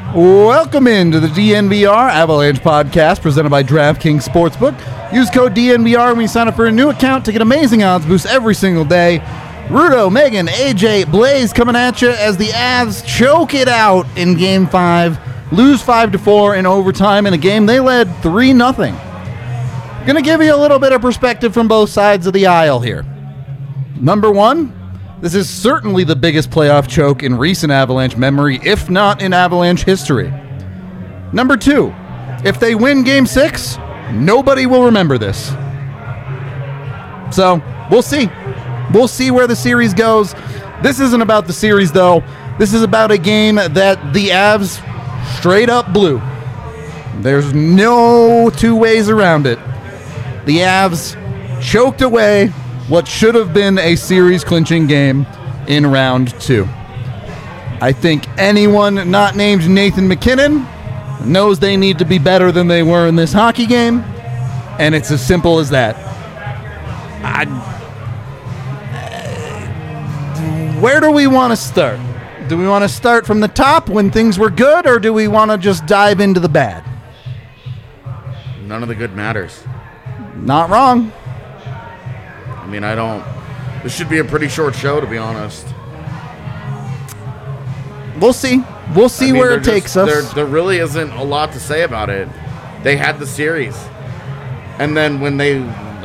Welcome into the DNVR Avalanche podcast presented by DraftKings Sportsbook. Use code DNVR when you sign up for a new account to get amazing odds boosts every single day. Rudo, Megan, AJ, Blaze coming at you as the Avs choke it out in Game 5, lose 5-4 in overtime in a game they led 3-0. Going to give you a little bit of perspective from both sides of the aisle here. Number one, this is certainly the biggest playoff choke in recent Avalanche memory, if not in Avalanche history. Number two, if they win Game 6, nobody will remember this. So, we'll see. We'll see where the series goes. This isn't about the series, though. This is about a game that the Avs straight up blew. There's no two ways around it. The Avs choked away what should have been a series-clinching game in round 2. I think anyone not named Nathan MacKinnon knows they need to be better than they were in this hockey game, and it's as simple as that. Where do we want to start? Do we want to start from the top when things were good, or do we want to just dive into the bad? None of the good matters. Not wrong. I mean, this should be a pretty short show, to be honest. We'll see. We'll see where it takes us. There really isn't a lot to say about it. They had the series. And then when they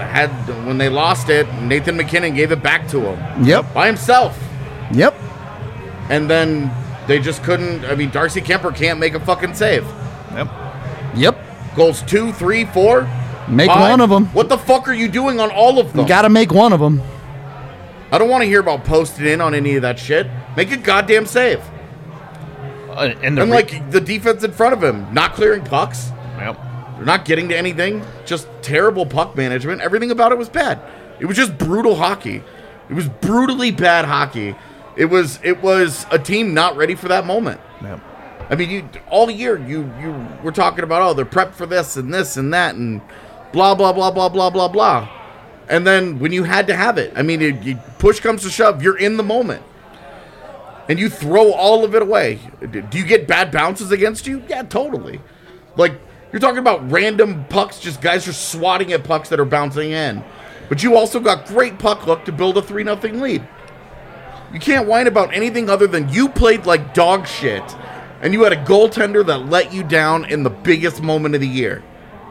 lost it, Nathan MacKinnon gave it back to him. Yep. By himself. Yep. And then they just couldn't. I mean, Darcy Kemper can't make a fucking save. Yep. Goals 2, 3, 4. Make 5. one of them. What the fuck are you doing on all of them? Got to make one of them. I don't want to hear about posting in on any of that shit. Make a goddamn save. And the defense in front of him, not clearing pucks. Yep. They're not getting to anything. Just terrible puck management. Everything about it was bad. It was just brutal hockey. It was brutally bad hockey. It was a team not ready for that moment. Yep. I mean, all year you were talking about, they're prepped for this and that and blah, blah, blah, blah, blah, blah, blah. And then when you had to have it, I mean, push comes to shove, you're in the moment. And you throw all of it away. Do you get bad bounces against you? Yeah, totally. Like, you're talking about random pucks, just guys are swatting at pucks that are bouncing in. But you also got great puck luck to build a 3-0 lead. You can't whine about anything other than you played like dog shit, and you had a goaltender that let you down in the biggest moment of the year.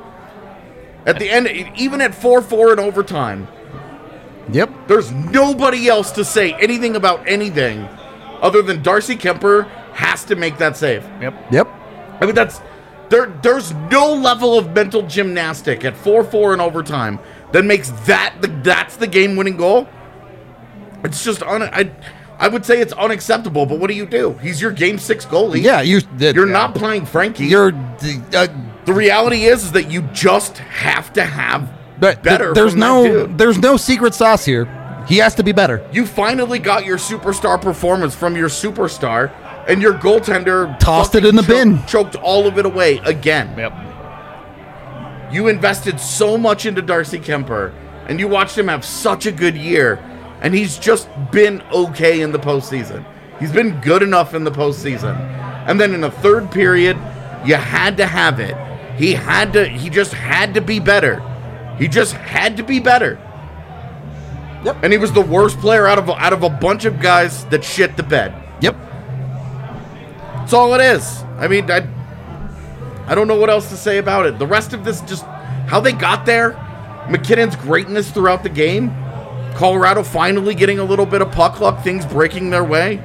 At the end, even at 4-4 in overtime, Yep. there's nobody else to say anything about anything other than Darcy Kemper has to make that save. Yep. I mean, there's no level of mental gymnastic at 4-4 in overtime that makes that's the game-winning goal. It's just I would say it's unacceptable, but what do? He's your Game 6 goalie. Yeah, you're not playing Frankie. The reality is that you just have to have better. There's no secret sauce here. He has to be better. You finally got your superstar performance from your superstar, and your goaltender tossed it in the bin. Choked all of it away again. Yep. You invested so much into Darcy Kemper, and you watched him have such a good year, and he's just been okay in the postseason. He's been good enough in the postseason. And then in the third period, you had to have it. He just had to be better. He just had to be better. Yep. And he was the worst player out of a bunch of guys that shit the bed. Yep. That's all it is. I mean, I don't know what else to say about it. The rest of this, just how they got there, MacKinnon's greatness throughout the game, Colorado finally getting a little bit of puck luck, things breaking their way.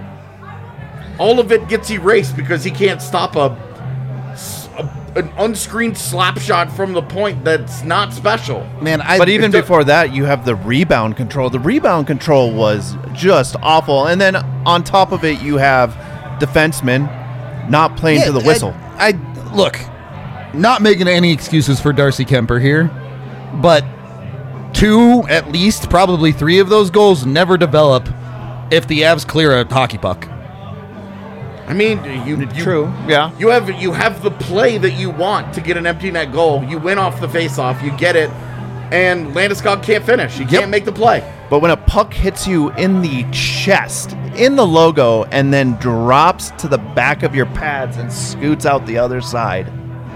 All of it gets erased because he can't stop an unscreened slap shot from the point that's not special. Man, but even before that, you have the rebound control. The rebound control was just awful. And then on top of it, you have defensemen not playing to the whistle. I look, not making any excuses for Darcy Kemper here, but 2, at least, probably 3 of those goals never develop if the Avs clear a hockey puck. I mean, true, yeah. You have the play that you want to get an empty net goal. You win off the faceoff, you get it, and Landeskog can't finish. He can't make the play. But when a puck hits you in the chest, in the logo and then drops to the back of your pads and scoots out the other side.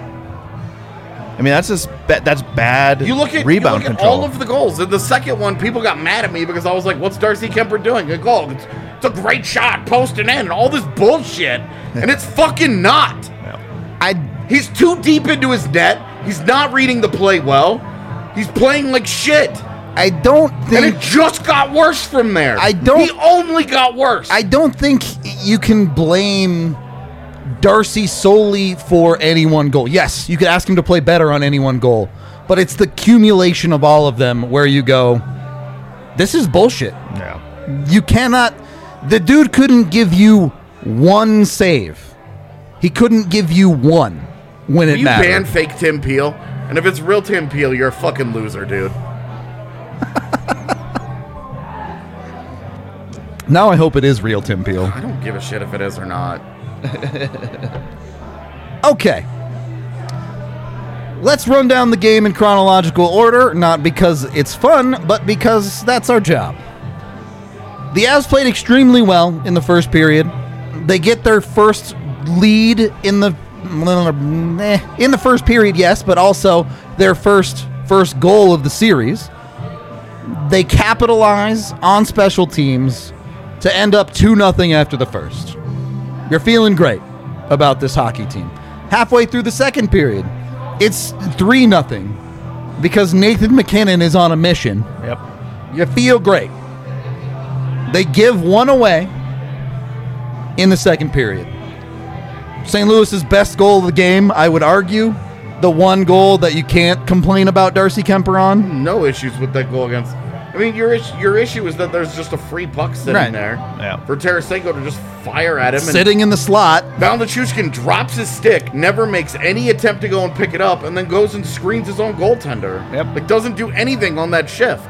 I mean, that's just that's bad rebound control. All of the goals. In the second one, people got mad at me because I was like, what's Darcy Kemper doing? A goal. It's a great shot, post and in, and all this bullshit. And it's fucking not. He's too deep into his net. He's not reading the play well. He's playing like shit. I don't think... And it just got worse from there. He only got worse. I don't think you can blame Darcy solely for any one goal. Yes, you could ask him to play better on any one goal, but it's the accumulation of all of them where you go, this is bullshit. Yeah. You cannot... The dude couldn't give you one save. He couldn't give you one when it mattered. You ban fake Tim Peel, and if it's real Tim Peel, you're a fucking loser, dude. Now I hope it is real Tim Peel. I don't give a shit if it is or not. Okay. Let's run down the game in chronological order, not because it's fun, but because that's our job. The Avs played extremely well in the first period. They get their first lead in the first period, yes, but also their first goal of the series. They capitalize on special teams to end up 2-0 after the first. You're feeling great about this hockey team. Halfway through the second period, it's 3-0 because Nathan MacKinnon is on a mission. Yep. You feel great. They give one away in the second period. St. Louis's best goal of the game, I would argue. The one goal that you can't complain about Darcy Kemper on. No issues with that goal against... I mean, your issue is that there's just a free puck sitting there for Tarasenko to just fire at him. Sitting in the slot. Baldachushkin drops his stick, never makes any attempt to go and pick it up, and then goes and screens his own goaltender. Yep. Like, doesn't do anything on that shift.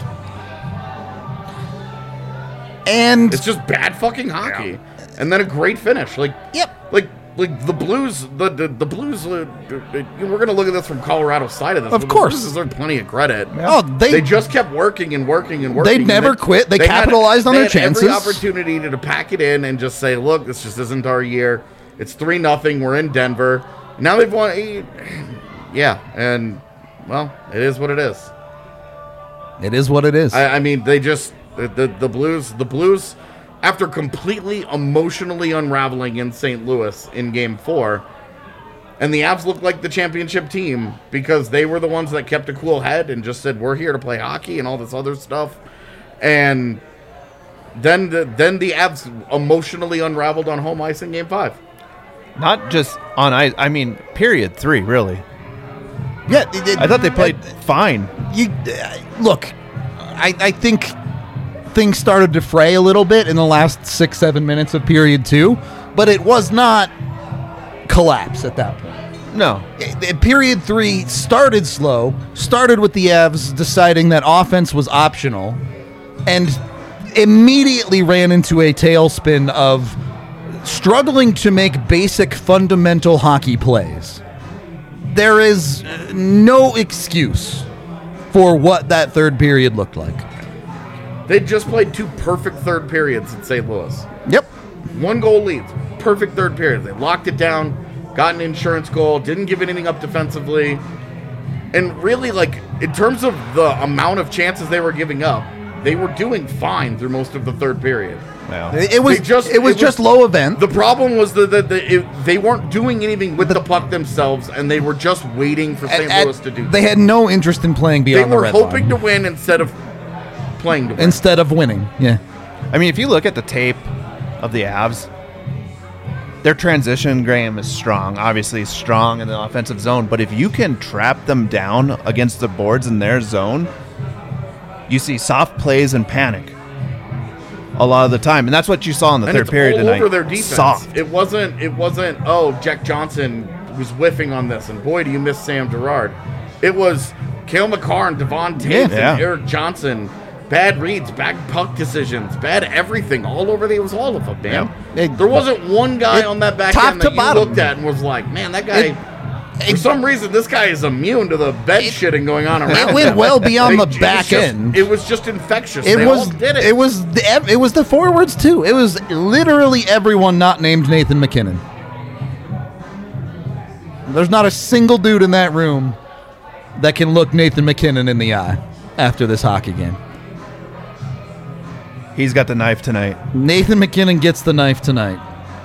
And it's just bad fucking hockey. Yeah. And then a great finish. Like, Like the Blues, the Blues. We're gonna look at this from Colorado's side of this. Of course, the Blues deserve plenty of credit. Yeah. Oh, they just kept working and working and working. They never quit. They capitalized on their chances. Every opportunity to pack it in and just say, "Look, this just isn't our year. It's 3-0. We're in Denver. Now they've won." Yeah, and well, it is what it is. It is what it is. I mean, they just the Blues. After completely emotionally unraveling in St. Louis in Game 4, and the Avs looked like the championship team because they were the ones that kept a cool head and just said, we're here to play hockey and all this other stuff. And then the Avs emotionally unraveled on home ice in Game 5. Not just on ice, I mean, period 3, really. Yeah. I thought they played fine. Look, I think... things started to fray a little bit in the last 6-7 minutes of period 2, but it was not collapse at that point. No. Period 3 started slow, started with the Avs deciding that offense was optional, and immediately ran into a tailspin of struggling to make basic fundamental hockey plays. There is no excuse for what that third period looked like. They just played 2 perfect third periods in St. Louis. Yep. 1 goal leads. Perfect third period. They locked it down, got an insurance goal, didn't give anything up defensively. And really, like, in terms of the amount of chances they were giving up, they were doing fine through most of the third period. Wow. It was just low event. The problem was that they weren't doing anything with the puck themselves, and they were just waiting for St. Louis to do that. They had no interest in playing beyond the red line. They were hoping to win instead of playing to win. Instead of winning, yeah. I mean, if you look at the tape of the Avs, their transition, Graham, is strong. Obviously strong in the offensive zone, but if you can trap them down against the boards in their zone, you see soft plays and panic a lot of the time, and that's what you saw in the third period tonight. And it's all over their defense. Soft. It wasn't, oh, Jack Johnson was whiffing on this, and boy, do you miss Sam Girard. It was Cale Makar and Devon Taves and Eric Johnson. Bad reads, bad puck decisions, bad everything. All over it was all of them, man. There wasn't one guy on that back end that you looked at and was like, man, that guy For some reason, this guy is immune to the bed shitting going on around It went him. well beyond the It was back just- end. It was just infectious. It They was. all did it. It was the forwards too. It was literally everyone not named Nathan McKinnon. There's not a single dude in that room that can look Nathan McKinnon in the eye after this hockey game. He's got the knife tonight. Nathan McKinnon gets the knife tonight.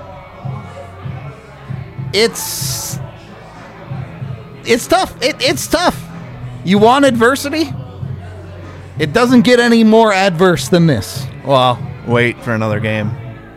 It's tough. It's tough. You want adversity? It doesn't get any more adverse than this. Well, wait for another game.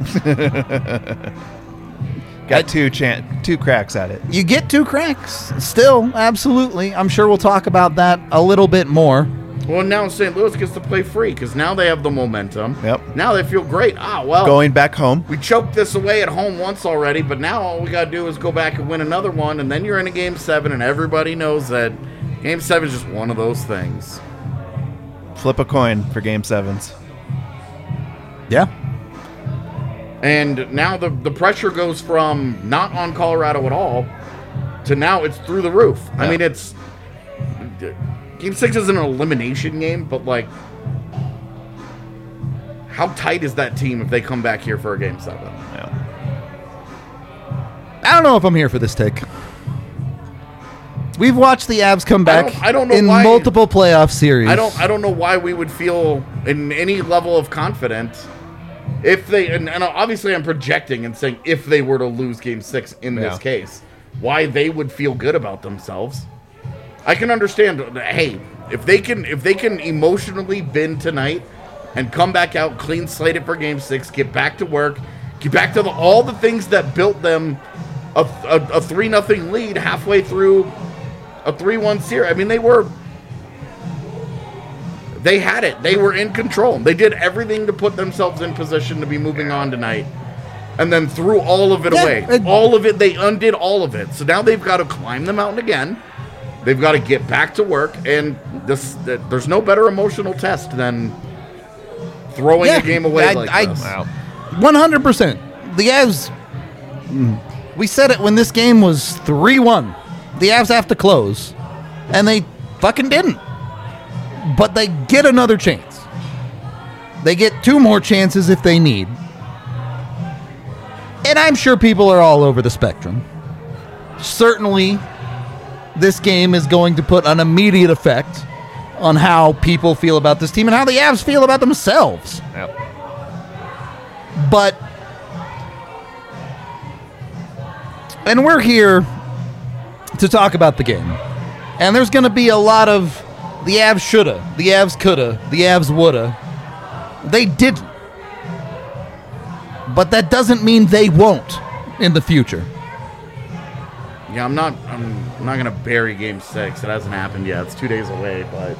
Got two cracks at it. You get 2 cracks. Still, absolutely. I'm sure we'll talk about that a little bit more. Well, now St. Louis gets to play free because now they have the momentum. Yep. Now they feel great. Well. Going back home. We choked this away at home once already, but now all we got to do is go back and win another one, and then you're in a Game 7, and everybody knows that Game 7 is just one of those things. Flip a coin for Game 7s. Yeah. And now the pressure goes from not on Colorado at all to now it's through the roof. Yeah. I mean, it's... Game 6 is an elimination game, but, like... How tight is that team if they come back here for a Game 7? Yeah. I don't know if I'm here for this take. We've watched the Avs come back I don't know in why- multiple playoff series. I don't know why we would feel in any level of confidence if they and obviously I'm projecting and saying if they were to lose Game 6 in this Yeah. case, why they would feel good about themselves. I can understand. Hey, if they can emotionally bend tonight and come back out clean slated for Game 6, get back to work, get back to all the things that built them a 3-0 lead halfway through a 3-1 series. I mean, they had it. They were in control. They did everything to put themselves in position to be moving on tonight. And then threw all of it away. All of it. They undid all of it. So now they've got to climb the mountain again. They've got to get back to work. And there's no better emotional test than throwing a game away like this. Wow. 100%. The Avs, we said it when this game was 3-1. The Avs have to close. And they fucking didn't. But they get another chance. They get 2 more chances if they need. And I'm sure people are all over the spectrum. Certainly, this game is going to put an immediate effect on how people feel about this team and how the Avs feel about themselves. Yep. But, and we're here to talk about the game. And there's going to be a lot of the Avs shoulda, the Avs coulda, the Avs woulda. They didn't. But that doesn't mean they won't in the future. Yeah, I'm not gonna bury Game 6. It hasn't happened yet. It's 2 days away, but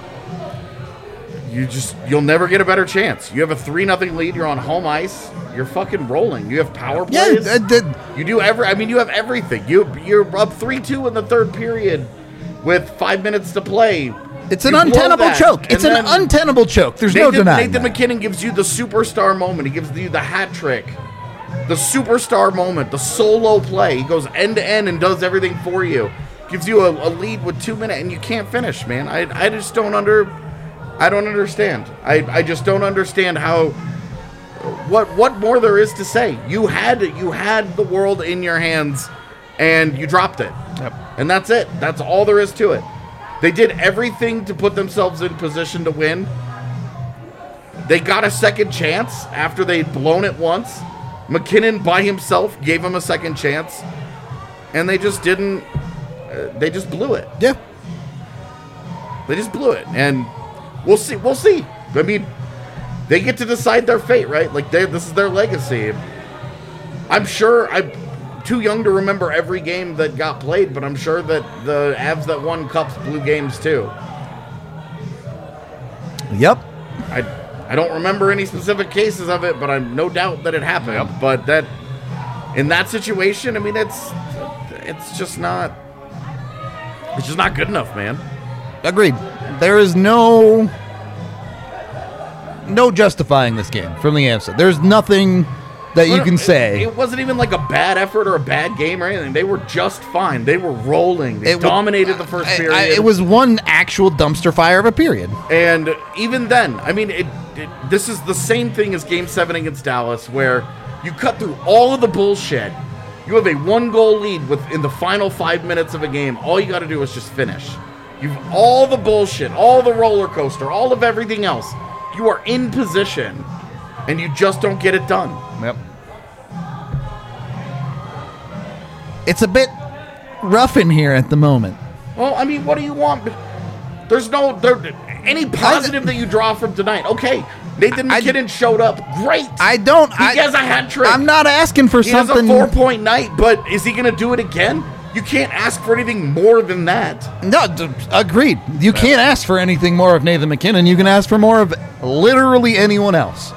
you'll never get a better chance. You have a 3-0 lead. You're on home ice. You're fucking rolling. You have power plays. You do you have everything. You're up 3-2 in the third period with 5 minutes to play. It's an You blow untenable that, choke. It's and an then untenable choke. There's no denying Nathan that. McKinnon gives you the superstar moment. He gives you the hat trick, the superstar moment, the solo play. He goes end to end and does everything for you. Gives you a lead with 2 minutes, and you can't finish, man. I just don't understand. I just don't understand how. What more there is to say? You had the world in your hands, and you dropped it. Yep. And that's it. That's all there is to it. They did everything to put themselves in position to win. They got a second chance after they'd blown it once. McKinnon by himself gave them a second chance. And they just didn't. They just blew it. Yeah. They just blew it. And we'll see. We'll see. I mean, they get to decide their fate, right? Like, this is their legacy. I'm sure I'm too young to remember every game that got played, but I'm sure that the Avs that won cups blew games too. Yep. I don't remember any specific cases of it, but I'm no doubt that it happened. Yep. But that in that situation, I mean, it's just not good enough, man. Agreed. There is no justifying this game from the Avs. There's that you can say. It wasn't even like a bad effort or a bad game or anything. They were just fine. They were rolling. They dominated the first period. It was one actual dumpster fire of a period. And even then, I mean, this is the same thing as Game 7 against Dallas, where you cut through all of the bullshit. You have a 1-goal lead in the final 5 minutes of a game. All you got to do is just finish. You've all the bullshit, all the roller coaster, all of everything else. You are in position, and you just don't get it done. Yep. It's a bit rough in here at the moment. Well, I mean, what do you want? There's any positive that you draw from tonight. Okay, Nathan McKinnon showed up. Great. He has a hat trick. I'm not asking for something. He has a 4-point night, but is he going to do it again? You can't ask for anything more than that. No, agreed. You can't ask for anything more of Nathan McKinnon. You can ask for more of literally anyone else.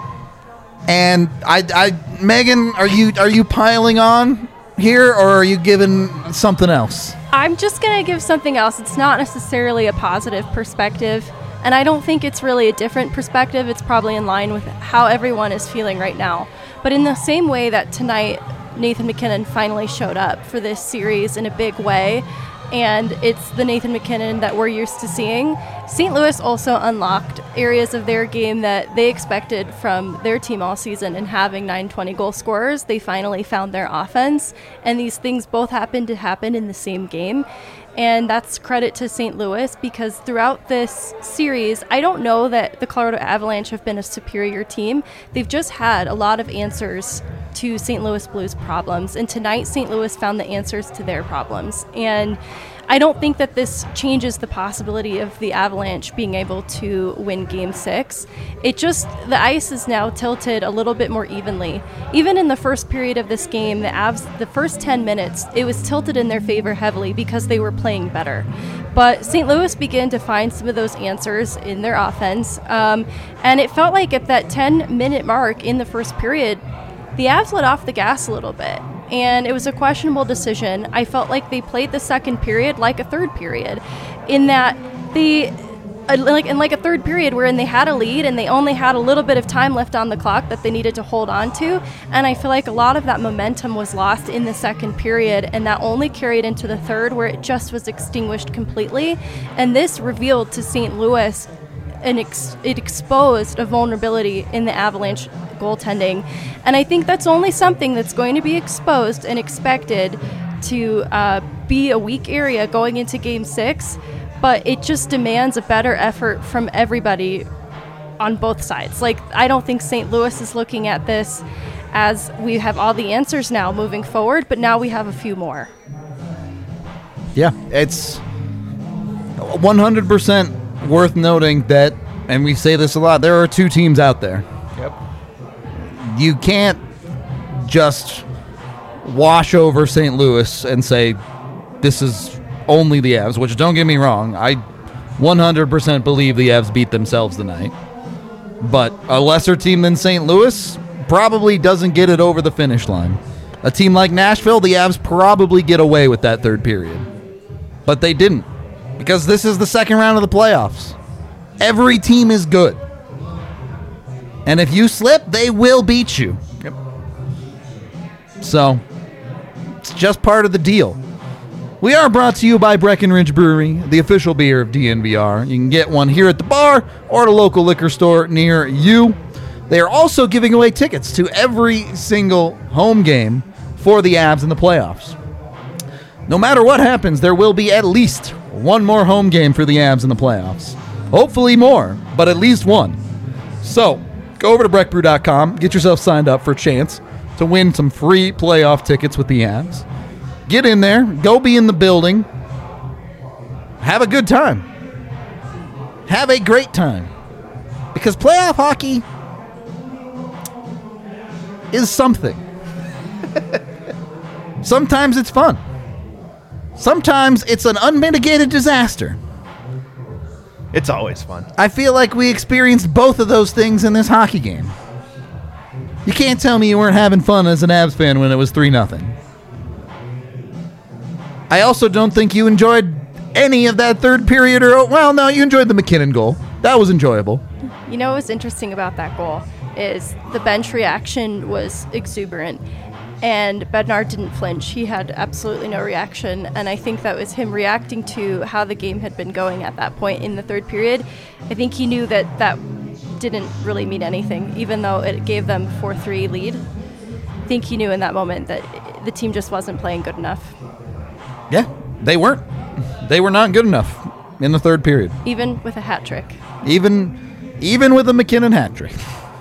And Megan, are you piling on here, or are you giving something else? I'm just going to give something else. It's not necessarily a positive perspective, and I don't think it's really a different perspective. It's probably in line with how everyone is feeling right now. But in the same way that tonight Nathan McKinnon finally showed up for this series in a big way, and it's the Nathan McKinnon that we're used to seeing. St. Louis also unlocked areas of their game that they expected from their team all season, and having 920 goal scorers, they finally found their offense, and these things both happened to happen in the same game. And that's credit to St. Louis, because throughout this series, I don't know that the Colorado Avalanche have been a superior team. They've just had a lot of answers to St. Louis Blues problems, and tonight St. Louis found the answers to their problems. And I don't think that this changes the possibility of the Avalanche being able to win Game 6. The ice is now tilted a little bit more evenly. Even in the first period of this game, the Avs, the first 10 minutes, it was tilted in their favor heavily because they were playing better. But St. Louis began to find some of those answers in their offense. And it felt like at that 10-minute mark in the first period, the Avs let off the gas a little bit. And it was a questionable decision. I felt like they played the second period like a third period, in that like a third period wherein they had a lead and they only had a little bit of time left on the clock that they needed to hold on to. And I feel like a lot of that momentum was lost in the second period, and that only carried into the third, where it just was extinguished completely. And this revealed to St. Louis it exposed a vulnerability in the Avalanche goaltending. And I think that's only something that's going to be exposed and expected to be a weak area going into Game 6, but it just demands a better effort from everybody on both sides. Like, I don't think St. Louis is looking at this as we have all the answers now moving forward, but now we have a few more. Yeah, it's 100% worth noting that, and we say this a lot, there are two teams out there. Yep. You can't just wash over St. Louis and say this is only the Avs, which, don't get me wrong, I 100% believe the Avs beat themselves tonight. But a lesser team than St. Louis probably doesn't get it over the finish line. A team like Nashville, the Avs probably get away with that third period. But they didn't, because this is the second round of the playoffs. Every team is good. And if you slip, they will beat you. Yep. So, it's just part of the deal. We are brought to you by Breckenridge Brewery, the official beer of DNVR. You can get one here at the bar or at a local liquor store near you. They are also giving away tickets to every single home game for the Avs in the playoffs. No matter what happens, there will be at least one more home game for the Avs in the playoffs. Hopefully more, but at least one. So, go over to breckbrew.com, get yourself signed up for a chance to win some free playoff tickets with the Avs. Get in there, go be in the building, have a good time. Have a great time. Because playoff hockey is something. Sometimes it's fun. Sometimes it's an unmitigated disaster. It's always fun. I feel like we experienced both of those things in this hockey game. You can't tell me you weren't having fun as an Avs fan when it was 3-0. I also don't think you enjoyed any of that third period, or, well, no, you enjoyed the McKinnon goal. That was enjoyable. You know what was interesting about that goal is the bench reaction was exuberant. And Bednar didn't flinch. He had absolutely no reaction. And I think that was him reacting to how the game had been going at that point in the third period. I think he knew that that didn't really mean anything, even though it gave them 4-3 lead. I think he knew in that moment that the team just wasn't playing good enough. Yeah, they weren't. They were not good enough in the third period. Even with a hat trick. Even with a McKinnon hat trick.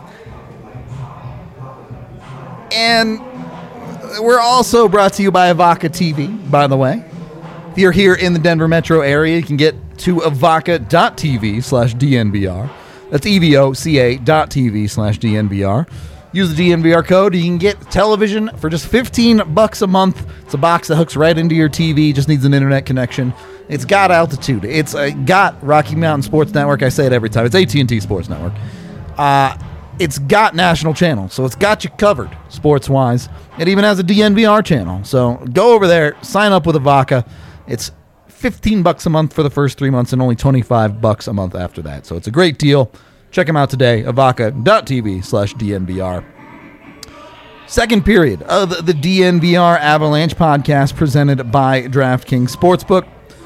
And we're also brought to you by Avaca TV, by the way. If you're here in the Denver metro area, you can get to avaca.tv/DNVR. That's evoca.tv/DNVR. Use the DNVR code. You can get television for just $15 a month. It's a box that hooks right into your TV. Just needs an internet connection. It's got altitude. It's got Rocky Mountain Sports Network. I say it every time. It's AT&T Sports Network. It's got national channels, so it's got you covered sports-wise. It even has a DNVR channel. So go over there, sign up with Avaca. It's $15 a month for the first 3 months and only $25 a month after that. So it's a great deal. Check them out today, avaca.tv/DNVR. Second period of the DNVR Avalanche podcast presented by DraftKings Sportsbook.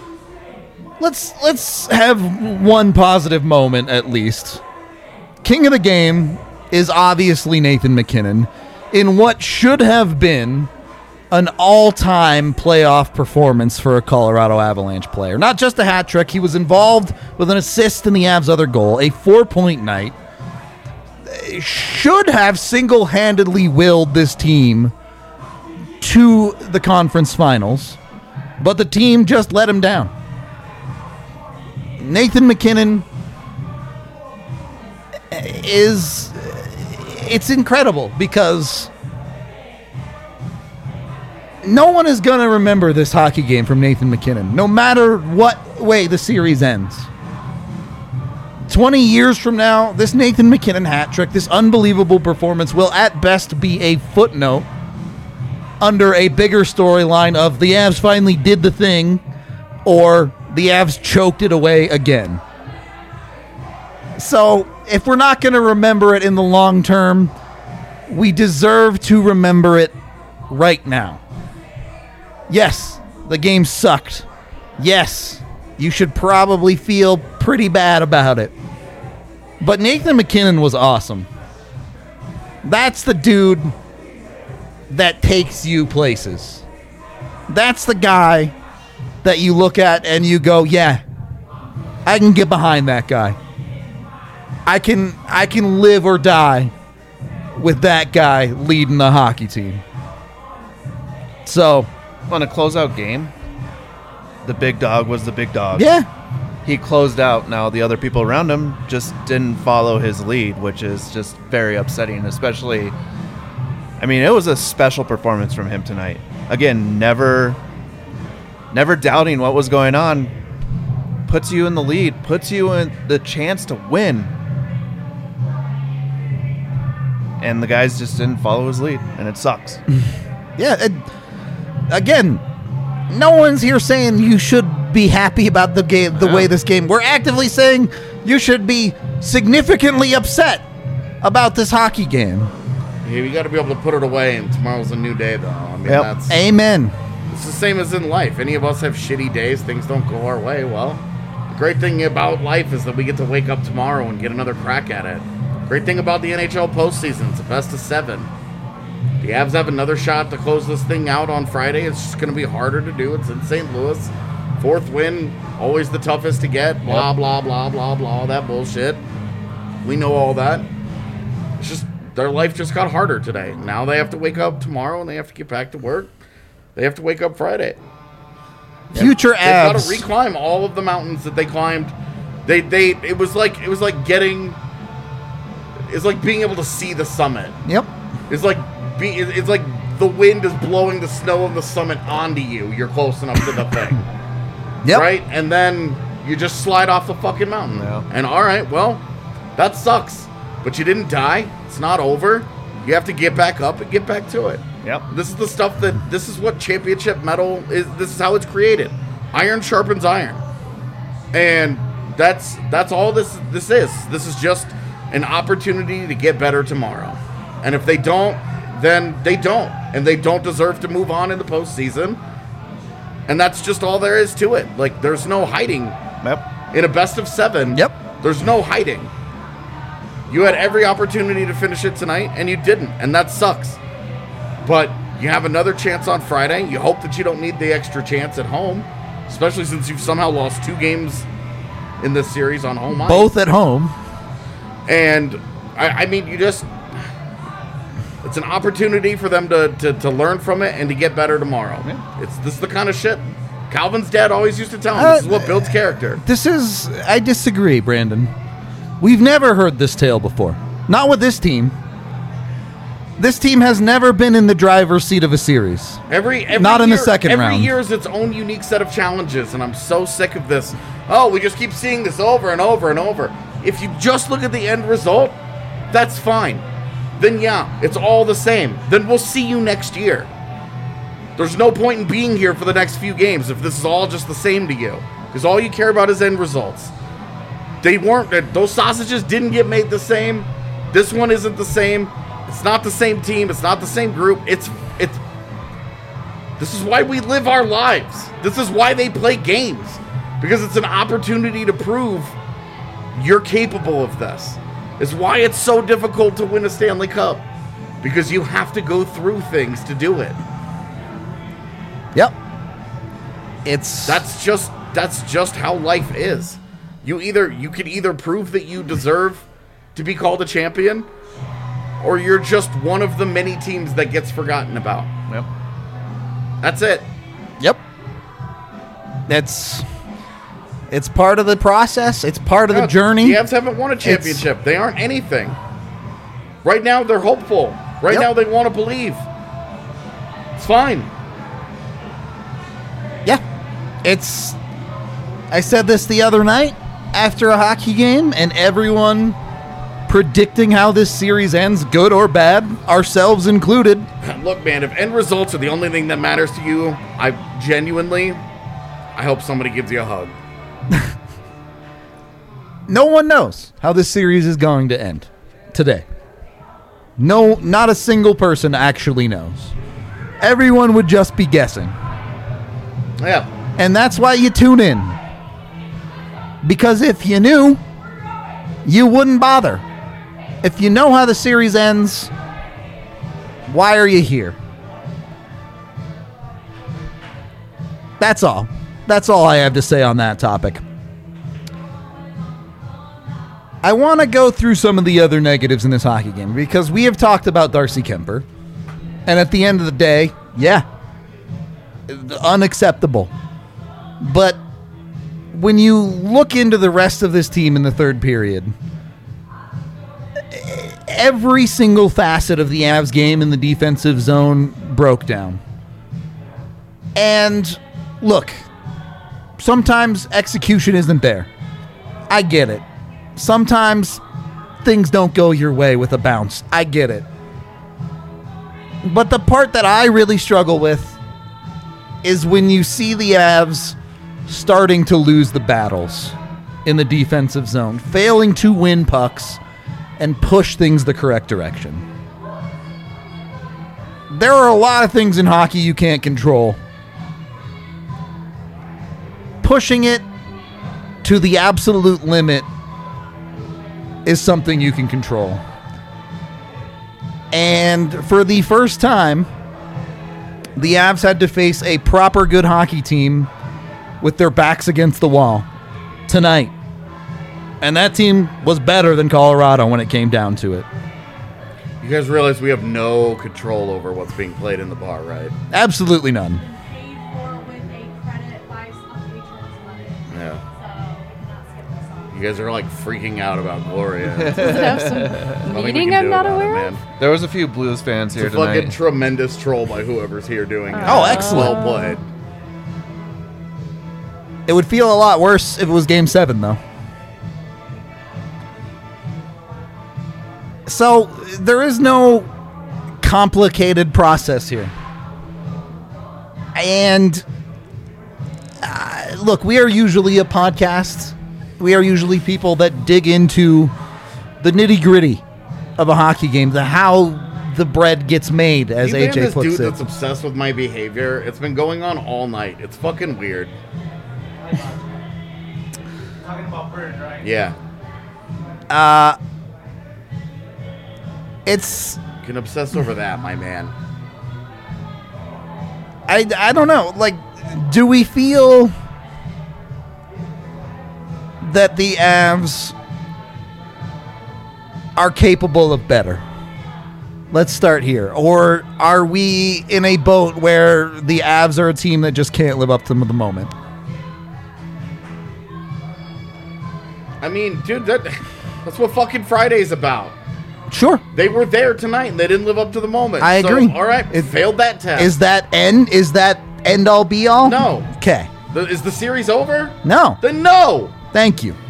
Let's have one positive moment at least. King of the game is obviously Nathan MacKinnon in what should have been an all-time playoff performance for a Colorado Avalanche player. Not just a hat trick. He was involved with an assist in the Avs' other goal, a 4-point night. Should have single-handedly willed this team to the conference finals, but the team just let him down. Nathan MacKinnon it's incredible because no one is going to remember this hockey game from Nathan MacKinnon, no matter what way the series ends. 20 years from now, this Nathan MacKinnon hat trick, this unbelievable performance will at best be a footnote under a bigger storyline of the Avs finally did the thing or the Avs choked it away again. So, if we're not going to remember it in the long term, we deserve to remember it right now. Yes, the game sucked. Yes, you should probably feel pretty bad about it. But Nathan MacKinnon was awesome. That's the dude that takes you places. That's the guy that you look at and you go, yeah, I can get behind that guy. I can live or die with that guy leading the hockey team. So, on a closeout game, the big dog was the big dog. Yeah. He closed out. Now, the other people around him just didn't follow his lead, which is just very upsetting, especially, I mean, it was a special performance from him tonight. Again, never doubting what was going on. Puts you in the lead, puts you in the chance to win. And the guys just didn't follow his lead, and it sucks. Yeah, again, no one's here saying you should be happy about the game, the way this game. We're actively saying you should be significantly upset about this hockey game. Yeah, you got to be able to put it away, and tomorrow's a new day, though. I mean, that's Amen. It's the same as in life. Any of us have shitty days, things don't go our way. Well, the great thing about life is that we get to wake up tomorrow and get another crack at it. Great thing about the NHL postseason, it's a best of 7. The Avs have another shot to close this thing out on Friday. It's just going to be harder to do. It's in St. Louis. 4th win, always the toughest to get. Blah, blah, blah, blah, blah, that bullshit. We know all that. It's just their life just got harder today. Now they have to wake up tomorrow and they have to get back to work. They have to wake up Friday. Future Avs. They've got to reclimb all of the mountains that they climbed. It was like being able to see the summit. Yep. It's like the wind is blowing the snow of the summit onto you. You're close enough to the thing. Yep. Right? And then you just slide off the fucking mountain. Yeah. And all right, well, that sucks. But you didn't die. It's not over. You have to get back up and get back to it. Yep. This is the stuff this is what championship metal is. This is how it's created. Iron sharpens iron. And that's all this is. This is just an opportunity to get better tomorrow. And if they don't, then they don't. And they don't deserve to move on in the postseason. And that's just all there is to it. Like, there's no hiding. Yep. In a best of 7, there's no hiding. You had every opportunity to finish it tonight, and you didn't. And that sucks. But you have another chance on Friday. You hope that you don't need the extra chance at home, especially since you've somehow lost 2 games in this series on home ice. Both at home. And, I mean, it's an opportunity for them to learn from it and to get better tomorrow. Yeah. This is the kind of shit Calvin's dad always used to tell him. This is what builds character. I disagree, Brandon. We've never heard this tale before. Not with this team. This team has never been in the driver's seat of a series. Every Not in the second round. Every year is its own unique set of challenges, and I'm so sick of this. Oh, we just keep seeing this over and over and over. If you just look at the end result, that's fine. Then yeah, it's all the same. Then we'll see you next year. There's no point in being here for the next few games if this is all just the same to you. Because all you care about is end results. Those sausages didn't get made the same. This one isn't the same. It's not the same team. It's not the same group. This is why we live our lives. This is why they play games. Because it's an opportunity to prove you're capable of this. It's why it's so difficult to win a Stanley Cup. Because you have to go through things to do it. Yep. That's just how life is. You can either prove that you deserve to be called a champion, or you're just one of the many teams that gets forgotten about. Yep. That's it. Yep. It's part of the process. It's part of the journey. The Avs haven't won a championship. They aren't anything. Right now, they're hopeful. Right now, they want to believe. It's fine. Yeah. I said this the other night after a hockey game, and everyone predicting how this series ends, good or bad, ourselves included. Look, man, if end results are the only thing that matters to you, I hope somebody gives you a hug. No one knows how this series is going to end today. No, not a single person actually knows. Everyone would just be guessing. Yeah. And that's why you tune in. Because if you knew, you wouldn't bother. If you know how the series ends, why are you here? That's all. That's all I have to say on that topic. I want to go through some of the other negatives in this hockey game because we have talked about Darcy Kuemper. And at the end of the day, yeah, unacceptable. But when you look into the rest of this team in the third period, every single facet of the Avs game in the defensive zone broke down. And look, sometimes execution isn't there. I get it. Sometimes things don't go your way with a bounce. I get it. But the part that I really struggle with is when you see the Avs starting to lose the battles in the defensive zone, failing to win pucks and push things the correct direction. There are a lot of things in hockey you can't control. Pushing it to the absolute limit is something you can control. And for the first time, the Avs had to face a proper good hockey team with their backs against the wall tonight. And that team was better than Colorado when it came down to it. You guys realize we have no control over what's being played in the bar, right? Absolutely none. Yeah. You guys are like freaking out about Gloria. Does it have some meaning I'm not aware of? There was a few Blues fans here It's a fucking tonight. tremendous troll by whoever's here doing it. Oh, excellent. Well played. It would feel a lot worse if it was Game 7, though. So, there is no complicated process here. And, look, we are usually a podcast. We are usually people that dig into the nitty-gritty of a hockey game, how the bread gets made, as You been AJ this puts dude it. that's obsessed with my behavior. It's been going on all night. It's fucking weird. Talking about birds, right? Yeah. It's You can obsess over that, my man. I don't know. Like, do we feel that the Avs are capable of better? Let's start here. Or are we in a boat where the Avs are a team that just can't live up to the moment? I mean, dude, that's what fucking Friday's about. Sure. They were there tonight and they didn't live up to the moment. I So, agree. all right, failed that test. Is that end all be all? No. Okay. Is the series over? No. Then no. Thank you.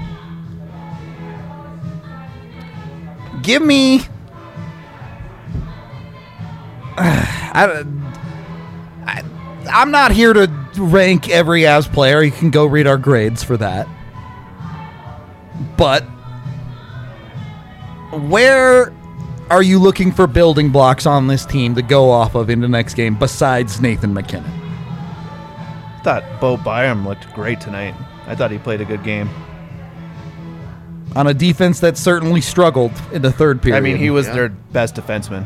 Give me. I'm not here to rank every Avs player. You can go read our grades for that. But where are you looking for building blocks on this team to go off of in the next game besides Nathan McKinnon? I thought Bo Byram looked great tonight. I thought he played a good game. On a defense that certainly struggled in the third period. I mean, he was Yeah. their best defenseman.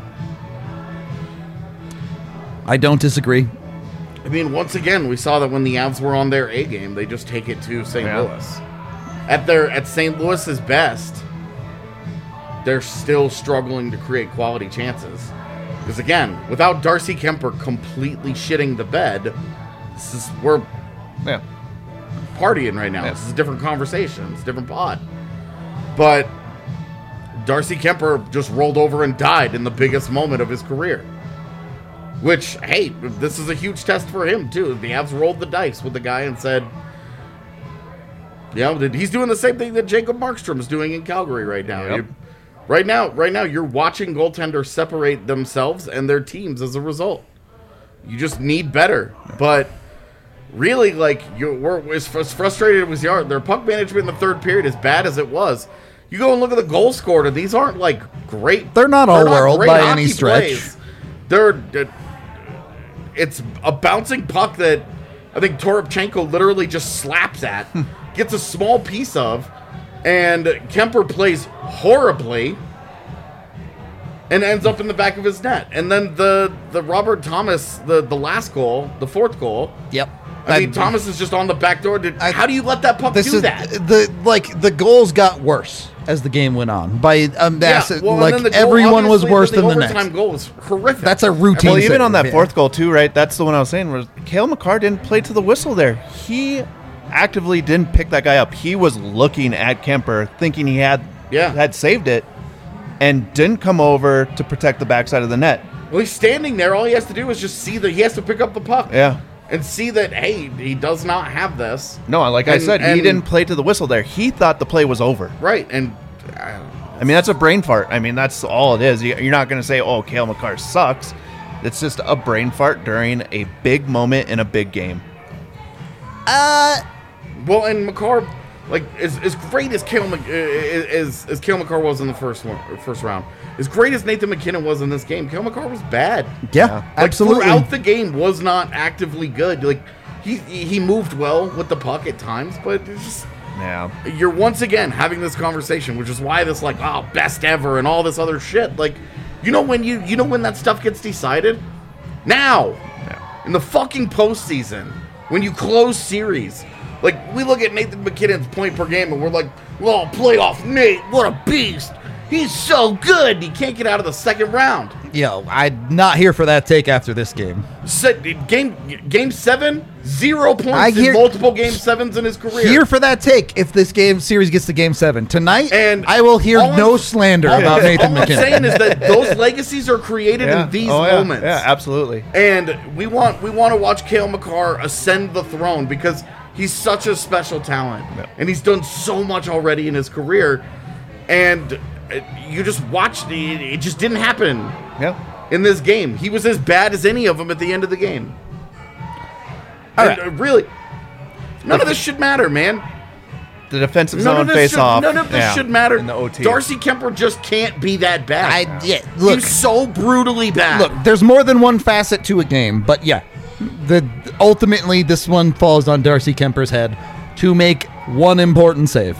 I don't disagree. I mean, once again, we saw that when the Avs were on their A game, they just take it to St. Yeah. Louis. At St. Louis's best, they're still struggling to create quality chances. Because again, without Darcy Kemper completely shitting the bed, we're Yeah. partying right now. Yeah. This is a different conversation. It's a different pod. But Darcy Kemper just rolled over and died in the biggest moment of his career. Which, hey, this is a huge test for him, too. The Avs rolled the dice with the guy and said, he's doing the same thing that Jacob Markstrom is doing in Calgary right now. Yep. Right now, you're watching goaltenders separate themselves and their teams as a result. You just need better. But really, like, we're as frustrated as we are. Their puck management in the third period, as bad as it was, you go and look at the goal scorer. These aren't, like, great. They're not all world great by hockey any stretch. plays. It's a bouncing puck that I think Toropchenko literally just slaps at, gets a small piece of, and Kemper plays horribly and ends up in the back of his net. And then the Robert Thomas, the last goal, the fourth goal. Yep. I mean, Thomas is just on the back door. How do you let that puck do that? The goals got worse as the game went on. By massive, well, and like then the goal, everyone was obviously, worse the than the overtime next. goal was horrific. That's a routine. Well, even on that Yeah. fourth goal too, right? That's the one I was saying. Was Cale Makar didn't play to the whistle there? He actively didn't pick that guy up. He was looking at Kemper, thinking he had saved it, and didn't come over to protect the backside of the net. Well, he's standing there. All he has to do is just see that he has to pick up the puck. Yeah. And see that, hey, he does not have this. No, like I said, he didn't play to the whistle there. He thought the play was over. Right, and I mean, that's a brain fart. I mean, that's all it is. You're not going to say, oh, Cale Makar sucks. It's just a brain fart during a big moment in a big game. well, and Makar, like as great as Cale Makar was in the first round, as great as Nathan McKinnon was in this game, Cale Makar was bad. Yeah, Like, absolutely. throughout the game was not actively good. Like he moved well with the puck at times, but it's just. Yeah. You're once again having this conversation, which is why this best ever and all this other shit. Like, when that stuff gets decided? Now. Yeah. In the fucking postseason, when you close series. Like, we look at Nathan McKinnon's point per game and we're like, well, playoff Nate, what a beast. He's so good. He can't get out of the second round. Yo, I'm not here for that take after this game. Game 7, 0 points in multiple game 7s in his career. Here for that take if this game series gets to game 7 tonight. And I will hear no slander about Nathan all I'm McKinnon. saying is that those legacies are created in these moments. Yeah, absolutely. And we want to watch Cale Makar ascend the throne because he's such a special talent. Yep. And he's done so much already in his career. And you just watched it just didn't happen. Yeah. In this game. He was as bad as any of them at the end of the game. All And, right. really, none of this should matter, man. The defensive None zone of this face should, off. None of this should matter. In the OT. Darcy Kemper just can't be that bad. Look, He's so brutally bad. look, there's more than one facet to a game, but yeah, ultimately this one falls on Darcy Kemper's head to make one important save.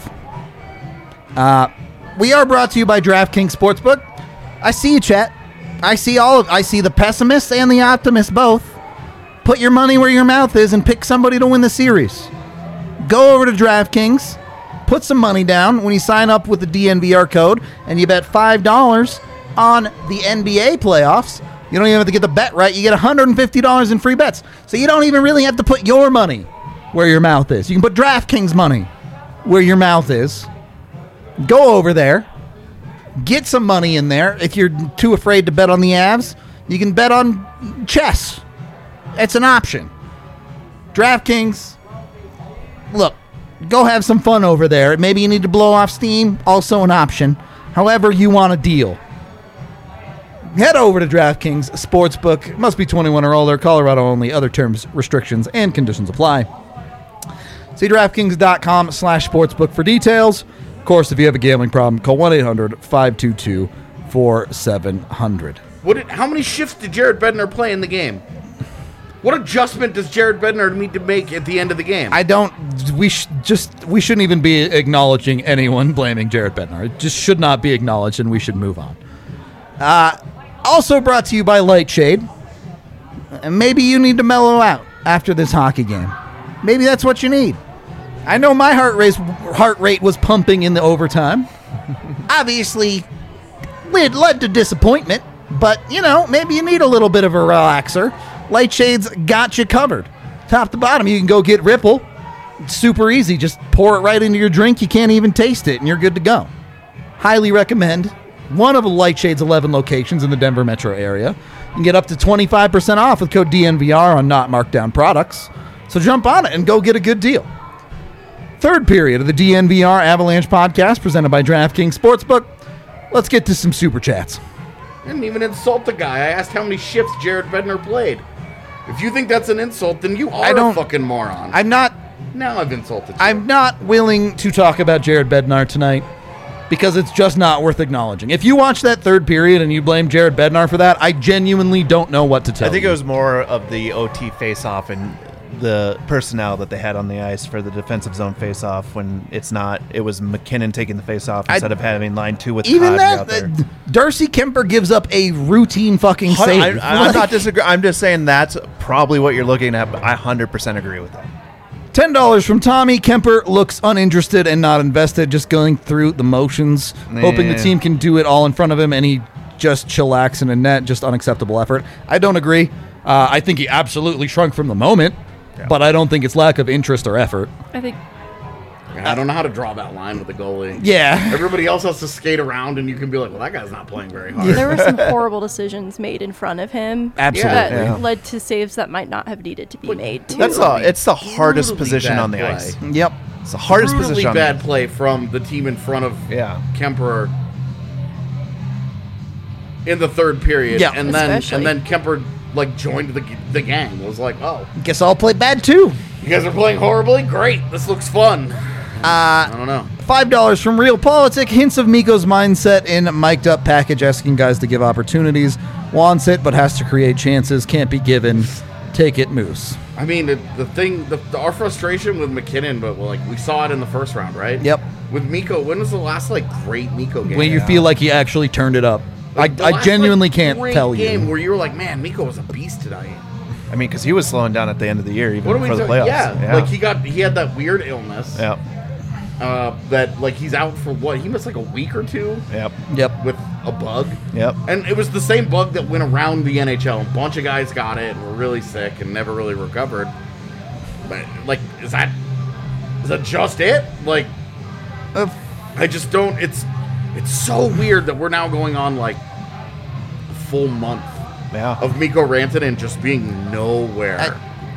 We are brought to you by DraftKings Sportsbook. I see you, chat. I see the pessimists and the optimists both. Put your money where your mouth is and pick somebody to win the series. Go over to DraftKings, put some money down when you sign up with the DNVR code, and you bet $5 on the NBA playoffs. You don't even have to get the bet right. You get $150 in free bets. So you don't even really have to put your money where your mouth is. You can put DraftKings money where your mouth is. Go over there. Get some money in there. If you're too afraid to bet on the Avs, you can bet on chess. It's an option. DraftKings, look, go have some fun over there. Maybe you need to blow off steam, also an option. However you want to deal. Head over to DraftKings Sportsbook. Must be 21 or older. Colorado only. Other terms, restrictions, and conditions apply. See DraftKings.com/sportsbook for details. Of course, if you have a gambling problem, call 1-800-522-4700. How many shifts did Jared Bednar play in the game? What adjustment does Jared Bednar need to make at the end of the game? We shouldn't even be acknowledging anyone blaming Jared Bednar. It just should not be acknowledged, and we should move on. Also brought to you by Lightshade. And maybe you need to mellow out after this hockey game. Maybe that's what you need. I know my heart rate was pumping in the overtime. Obviously, it led to disappointment, but, maybe you need a little bit of a relaxer. Lightshade's got you covered. Top to bottom, you can go get Ripple. It's super easy. Just pour it right into your drink. You can't even taste it, and you're good to go. Highly recommend one of Lightshade's 11 locations in the Denver metro area. You can get up to 25% off with code DNVR on not marked down products. So jump on it and go get a good deal. Third period of the DNVR Avalanche podcast presented by DraftKings Sportsbook. Let's get to some super chats. I didn't even insult the guy. I asked how many shifts Jared Bednar played. If you think that's an insult, then you are a fucking moron. Now I've insulted you. I'm not willing to talk about Jared Bednar tonight because it's just not worth acknowledging. If you watch that third period and you blame Jared Bednar for that, I genuinely don't know what to tell you. I think it was more of the OT face-off and the personnel that they had on the ice for the defensive zone face-off when it was McKinnon taking the face-off instead of having line 2 with even Kadri out there. Darcy Kemper gives up a routine fucking save. I'm not disagreeing. I'm just saying that's probably what you're looking at, but I 100% agree with that. $10 from Tommy. Kemper looks uninterested and not invested, just going through the motions, hoping the team can do it all in front of him, and he just chillax in a net, just unacceptable effort. I don't agree. I think he absolutely shrunk from the moment. Yeah. But I don't think it's lack of interest or effort. I don't know how to draw that line with the goalie. Yeah. Everybody else has to skate around, and you can be like, well, that guy's not playing very hard. There were some horrible decisions made in front of him. Absolutely. That led to saves that might not have needed to be made, too. It's the hardest position on the ice. Yep. It's the hardest position on the ice. Bad play from the team in front of Kemper in the third period. Yeah. And then Kemper joined the gang. It was like, oh, guess I'll play bad too. You guys are playing horribly? Great. This looks fun. I don't know. $5 from Real Politic. Hints of Mikko's mindset in mic'd up package, asking guys to give opportunities. Wants it, but has to create chances. Can't be given. Take it, Moose. I mean, our frustration with McKinnon, but we saw it in the first round, right? Yep. With Mikko, when was the last great Mikko game? When you feel like he actually turned it up. I genuinely can't tell you. Game where you were like, man, Mikko was a beast tonight. I mean, because he was slowing down at the end of the year, even for the playoffs. Yeah, he had that weird illness. Yeah. That he's out for what? He missed a week or two. Yep. With a bug. Yep. And it was the same bug that went around the NHL. A bunch of guys got it and were really sick and never really recovered. But is that just it? I just don't. It's so weird that we're now going on a full month of Mikko Rantanen just being nowhere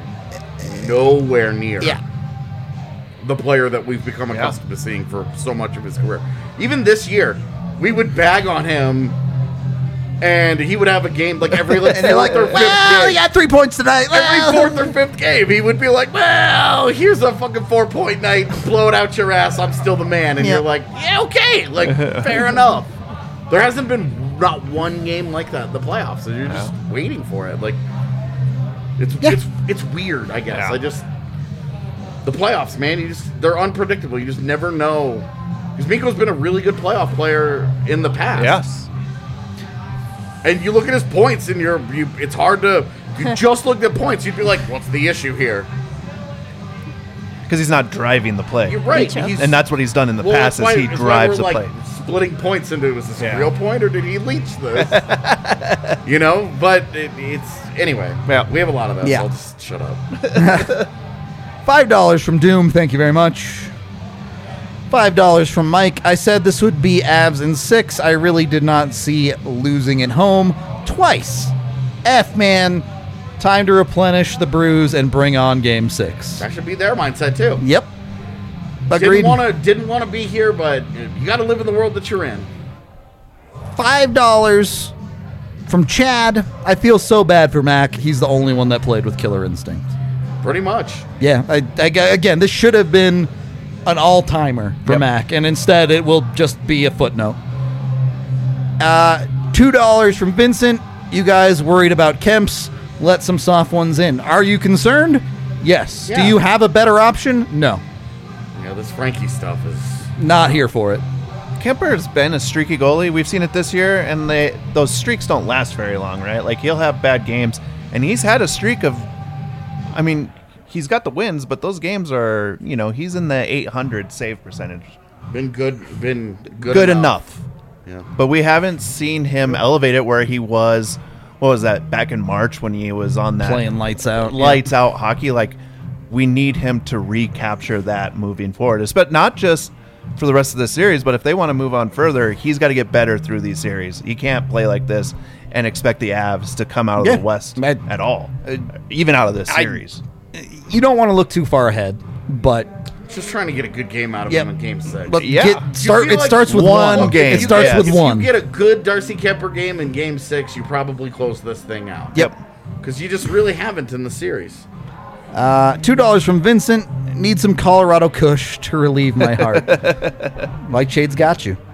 near the player that we've become accustomed to seeing for so much of his career. Even this year, we would bag on him And he would have a game like every And you're like, fourth or fifth well, game. he got 3 points tonight. Every Well. fourth or fifth game, he would be like, well, here's a fucking 4-point night. Blow it out your ass. I'm still the man. And Yeah. you're like, yeah, okay. Like, fair enough. There hasn't been not one game like that in the playoffs. So you're just waiting for it. Like, it's weird, I guess. Yeah. The playoffs, man, they're unpredictable. You just never know. Because Mikko's been a really good playoff player in the past. Yes. And you look at his points, and it's hard to. If you just looked at points, you'd be like, "What's the issue here?" Because he's not driving the play. You're right, Mitchell. he's- And that's what he's done in the well, past, that's is why- he that's why drives the we're, play. Splitting points into, was this Yeah. a real point or did he leech this? But it's anyway. Yeah. We have a lot of that. Yeah. So I'll just shut up. $5 from Doom. Thank you very much. $5 from Mike. I said this would be Avs in 6. I really did not see losing at home twice. Man. Time to replenish the brews and bring on Game 6. That should be their mindset too. Yep. Agreed. Didn't want to be here, but you got to live in the world that you're in. $5 from Chad. I feel so bad for Mac. He's the only one that played with Killer Instinct. Pretty much. Yeah, again, this should have been an all-timer for Yep. Mac, and instead it will just be a footnote. $2 from Vincent. You guys worried about Kemps? Let some soft ones in. Are you concerned? Yes. Yeah. Do you have a better option? No. You know, this Frankie stuff is. Not here for it. Kemper's been a streaky goalie. We've seen it this year, and those streaks don't last very long, right? Like, he'll have bad games, and he's had a streak of, I mean, he's got the wins, but those games are, he's in the 800 save percentage. Been good Good enough. Yeah. But we haven't seen him elevate it where he was, what was that, back in March when he was on that Playing lights out. lights out hockey. Like, we need him to recapture that moving forward. But not just for the rest of the series, but if they want to move on further, he's got to get better through these series. He can't play like this and expect the Avs to come out of Yeah. the West I- at all, even out of this series. You don't want to look too far ahead, but Just trying to get a good game out of Yep. him in Game 6. but Yeah. You it feel like starts with one one. game. It starts Yes. with if one. you get a good Darcy Kemper game in Game 6, you probably close this thing out. Yep. Because you just really haven't in the series. $2 from Vincent. Need some Colorado Kush to relieve my heart. Mike Shade's got you.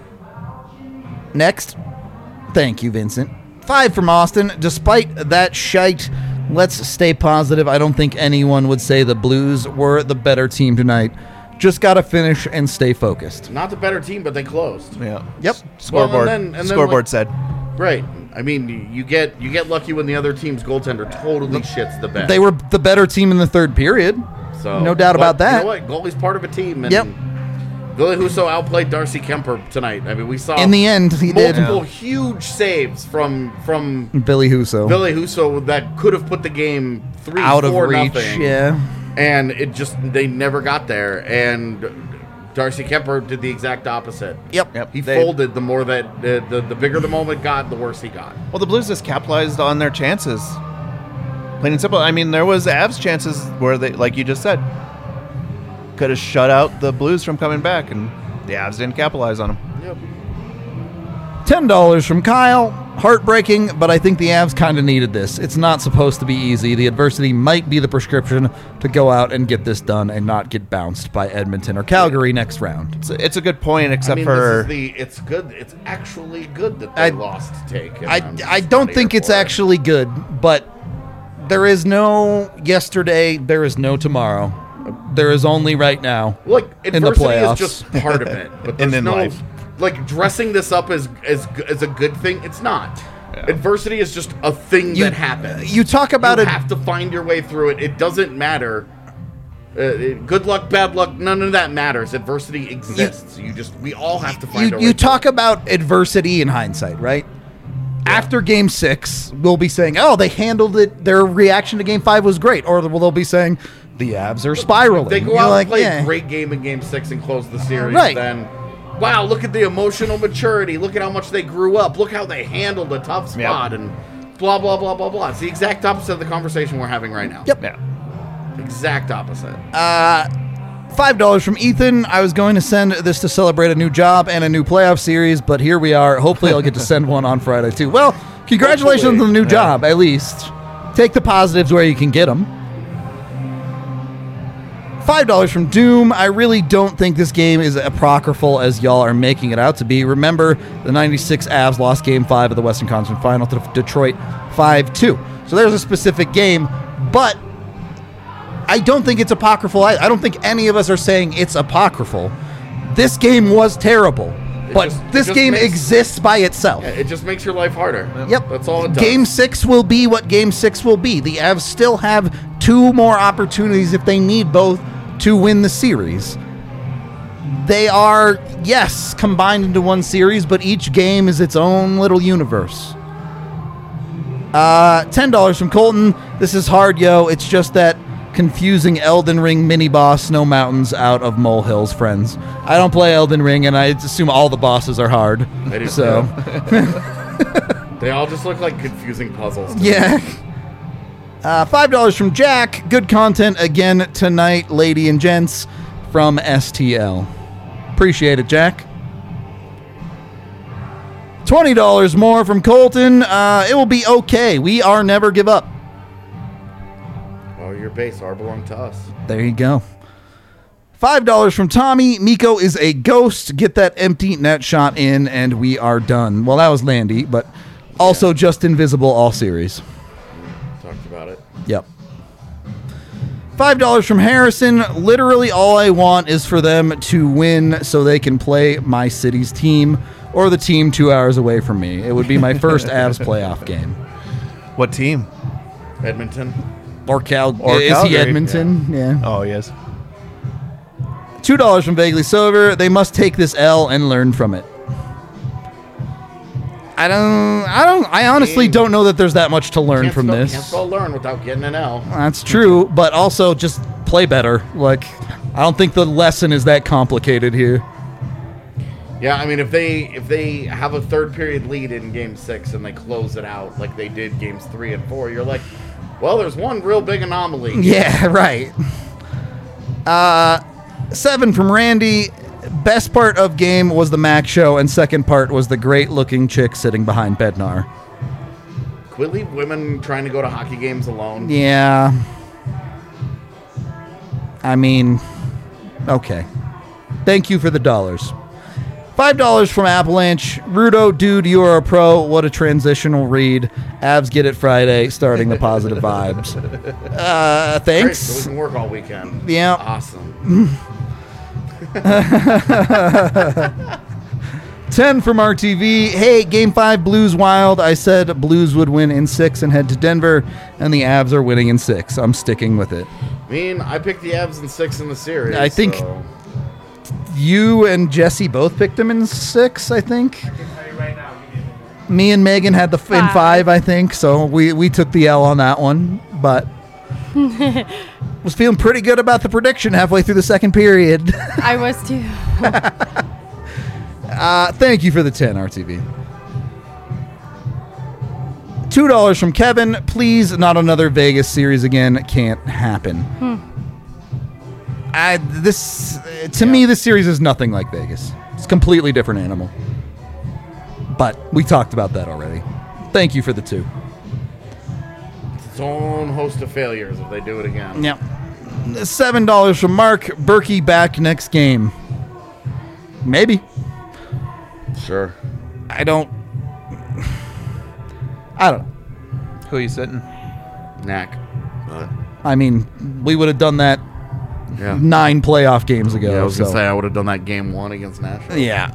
Next. Thank you, Vincent. 5 from Austin. Despite that shite, let's stay positive. I don't think anyone would say the Blues were the better team tonight. Just got to finish and stay focused. Not the better team, but they closed. Yeah. Yep. Scoreboard. and then, Scoreboard like- said. Right. I mean, you get lucky when the other team's goaltender totally shits the bed. They were the better team in the third period. So, no doubt about that. You know what? Goalie's part of a team. And Yep. Billy Husso outplayed Darcy Kemper tonight. I mean, we saw In the end, he did. multiple huge saves from Billy Husso. Billy Husso that could have put the game 3-4 Out of reach. nothing. Yeah. And they never got there. And Darcy Kemper did the exact opposite. Yep. He They- folded the more that the bigger the moment got, the worse he got. Well, the Blues just capitalized on their chances. Plain and simple. I mean, there was Avs chances where they, like you just said, could have shut out the Blues from coming back, and the Avs didn't capitalize on them. Yep. $10 from Kyle. Heartbreaking, but I think the Avs kind of needed this. It's not supposed to be easy. The adversity might be the prescription to go out and get this done and not get bounced by Edmonton or Calgary next round. It's a good point, except for it's good. It's actually good that I- they lost to take. and I I'm just don't not think here it's for it. actually good, but there is no yesterday, there is no tomorrow. There is only right now. Like the adversity playoffs. is just part of it, but And there's in no life. like dressing this up as a good thing. It's not. Adversity is just a thing that happens. You talk about you it. have to find your way through it. It doesn't matter. Good luck, bad luck, none of that matters. Adversity exists. We all have to find our way. You through talk about adversity in hindsight, right? After Game 6, we'll be saying, "Oh, they handled it. Their reaction to Game 5 was great," or they'll be saying, "The Avs are spiraling." They go You're out like, and play yeah. a great game in Game 6 and close the series. Right. Then, wow, look at the emotional maturity. Look at how much they grew up. Look how they handled a tough spot and blah, blah, blah, blah, blah. It's the exact opposite of the conversation we're having right now. Yep. yeah. Exact opposite. $5 from Ethan. I was going to send this to celebrate a new job and a new playoff series, but here we are. Hopefully I'll get to send one on Friday too. Well, congratulations on the new job, at least. Take the positives where you can get them. $5 from Doom. I really don't think this game is apocryphal as y'all are making it out to be. Remember, the 96 Avs lost Game 5 of the Western Conference Final to Detroit 5-2. So there's a specific game, but I don't think it's apocryphal. I don't think any of us are saying it's apocryphal. This game was terrible, but this game exists by itself. It just makes your life harder. Yep. That's all it does. Game 6 will be what Game 6 will be. The Avs still have 2 more opportunities if they need both to win the series. They are, yes, combined into one series, but each game is its own little universe. $10 from Colton. This is hard, yo. It's just that confusing Elden Ring mini-boss Snow Mountains out of molehills, friends. I don't play Elden Ring, and I assume all the bosses are hard. They do So, They all just look like confusing puzzles. yeah. $5 from Jack. Good content again tonight, lady and gents, from STL. Appreciate it, Jack. $20 more from Colton. It will be okay. We are never give up. Oh, your base are belong to us. There you go. $5 from Tommy. Miko is a ghost. Get that empty net shot in, and we are done. Well, that was Landy, but also just invisible all series. Talked about it. Yep. $5 from Harrison. Literally all I want is for them to win so they can play my city's team or the team 2 hours away from me. It would be my first Avs playoff game. What team? Edmonton. Or Cal. Or is Calgary. he Edmonton? Yeah. Oh, yes. $2 from Vaguely Sober. They must take this L and learn from it. I honestly don't know that there's that much to learn from this. Can't spell learn without getting an L. That's true, but also just play better. Like, I don't think the lesson is that complicated here. Yeah, I mean, if they have a third period lead in Game 6 and they close it out like they did Games 3 and 4, you're like, well, there's one real big anomaly. Yeah, right. 7 from Randy. Best part of game was the Mac show, and second part was the great-looking chick sitting behind Bednar. Could we leave women trying to go to hockey games alone? Yeah. I mean, okay. Thank you for the dollars. $5 from Avalanche. Rudo, dude, you are a pro. What a transitional read. Avs get it Friday, starting the positive vibes. Great, Thanks. so we can work all weekend. Yeah. Awesome. 10 from RTV. Hey, Game 5 Blues Wild. I said Blues would win in 6 and head to Denver, and the Avs are winning in 6. I'm sticking with it. I mean, I picked the Avs in 6 in the series. I think so. You and Jesse both picked him in 6, I think. Me and Megan had the in 5, I think. So we took the L on that one, but was feeling pretty good about the prediction halfway through the second period. I was too. Thank you for the 10, RTV. $2 from Kevin. Please, not another Vegas series again. Can't happen. To me, this series is nothing like Vegas. It's a completely different animal. But we talked about that already. Thank you for the 2. It's its own host of failures if they do it again. Yep. $7 from Mark. Berkey back next game. Maybe. Sure. I don't know. Who are you sitting? Knack. But, I mean, we would have done that yeah. 9 playoff games ago. Yeah, I was going to so. say I would have done that Game 1 against Nashville. Yeah.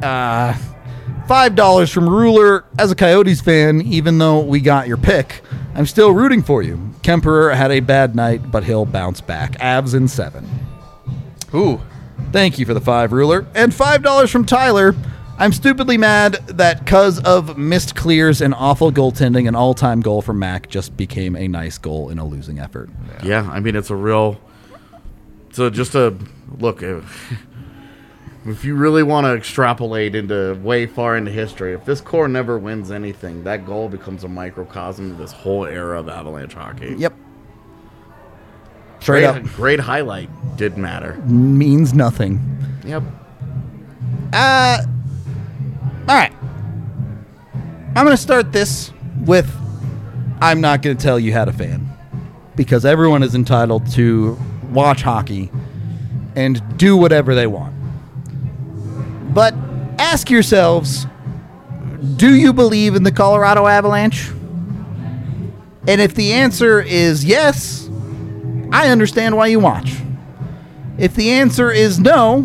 $5 from Ruler. As a Coyotes fan, even though we got your pick, I'm still rooting for you. Kemperer had a bad night, but he'll bounce back. Avs in 7. Ooh. Thank you for the 5, Ruler. And $5 from Tyler. I'm stupidly mad that because of missed clears and awful goaltending, an all-time goal from Mac just became a nice goal in a losing effort. Yeah, I mean, it's a real... So just a look, if you really want to extrapolate into way far into history, if this core never wins anything, that goal becomes a microcosm of this whole era of Avalanche hockey. Yep. Straight up. Great highlight. Did matter. Means nothing. Yep. All right. I'm going to start this with I'm not going to tell you how to fan, because everyone is entitled to watch hockey and do whatever they want. But ask yourselves, do you believe in the Colorado Avalanche? And if the answer is yes, I understand why you watch. If the answer is no,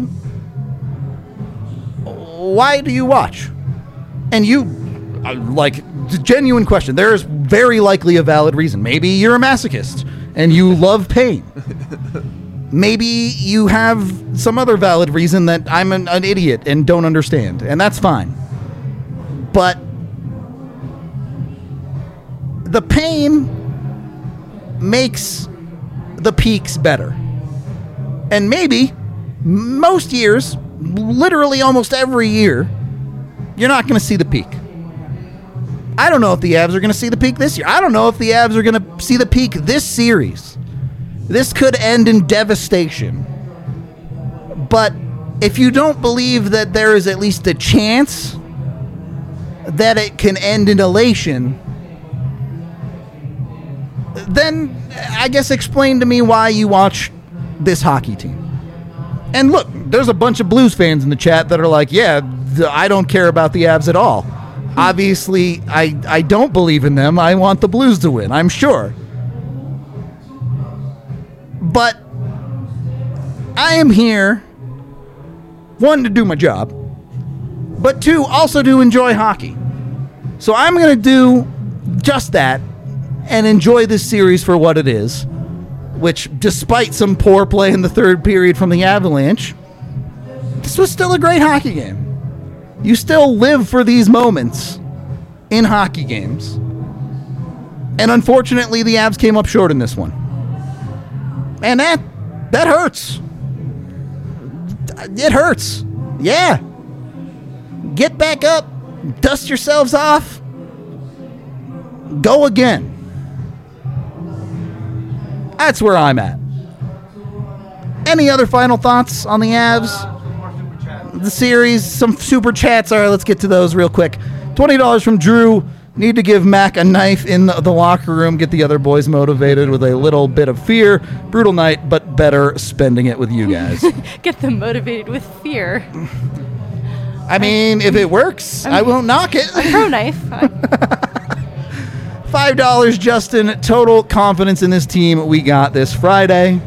why do you watch? And you, like, genuine question. There is very likely a valid reason. Maybe you're a masochist and you love pain. Maybe you have some other valid reason that I'm an idiot and don't understand, and that's fine. But the pain makes the peaks better. And maybe most years, literally almost every year, you're not going to see the peak. I don't know if the Avs are going to see the peak this year. I don't know if the Avs are going to see the peak this series. This could end in devastation. But if you don't believe that there is at least a chance that it can end in elation, then I guess explain to me why you watch this hockey team. And look, there's a bunch of Blues fans in the chat that are like, yeah, I don't care about the Avs at all. Obviously, I don't believe in them. I want the Blues to win, I'm sure. But I am here, one, to do my job, but two, also to enjoy hockey. So I'm going to do just that and enjoy this series for what it is, which, despite some poor play in the third period from the Avalanche, this was still a great hockey game. You still live for these moments in hockey games. And unfortunately, the Avs came up short in this one. And that hurts. It hurts. Yeah. Get back up. Dust yourselves off. Go again. That's where I'm at. Any other final thoughts on the Avs? The series, some super chats. All right, let's get to those real quick. $20 from Drew. Need to give Mac a knife in the locker room. Get the other boys motivated with a little bit of fear. Brutal night, but better spending it with you guys. Get them motivated with fear. I mean, if it works, I won't knock it. A pro knife. $5, Justin. Total confidence in this team. We got this Friday.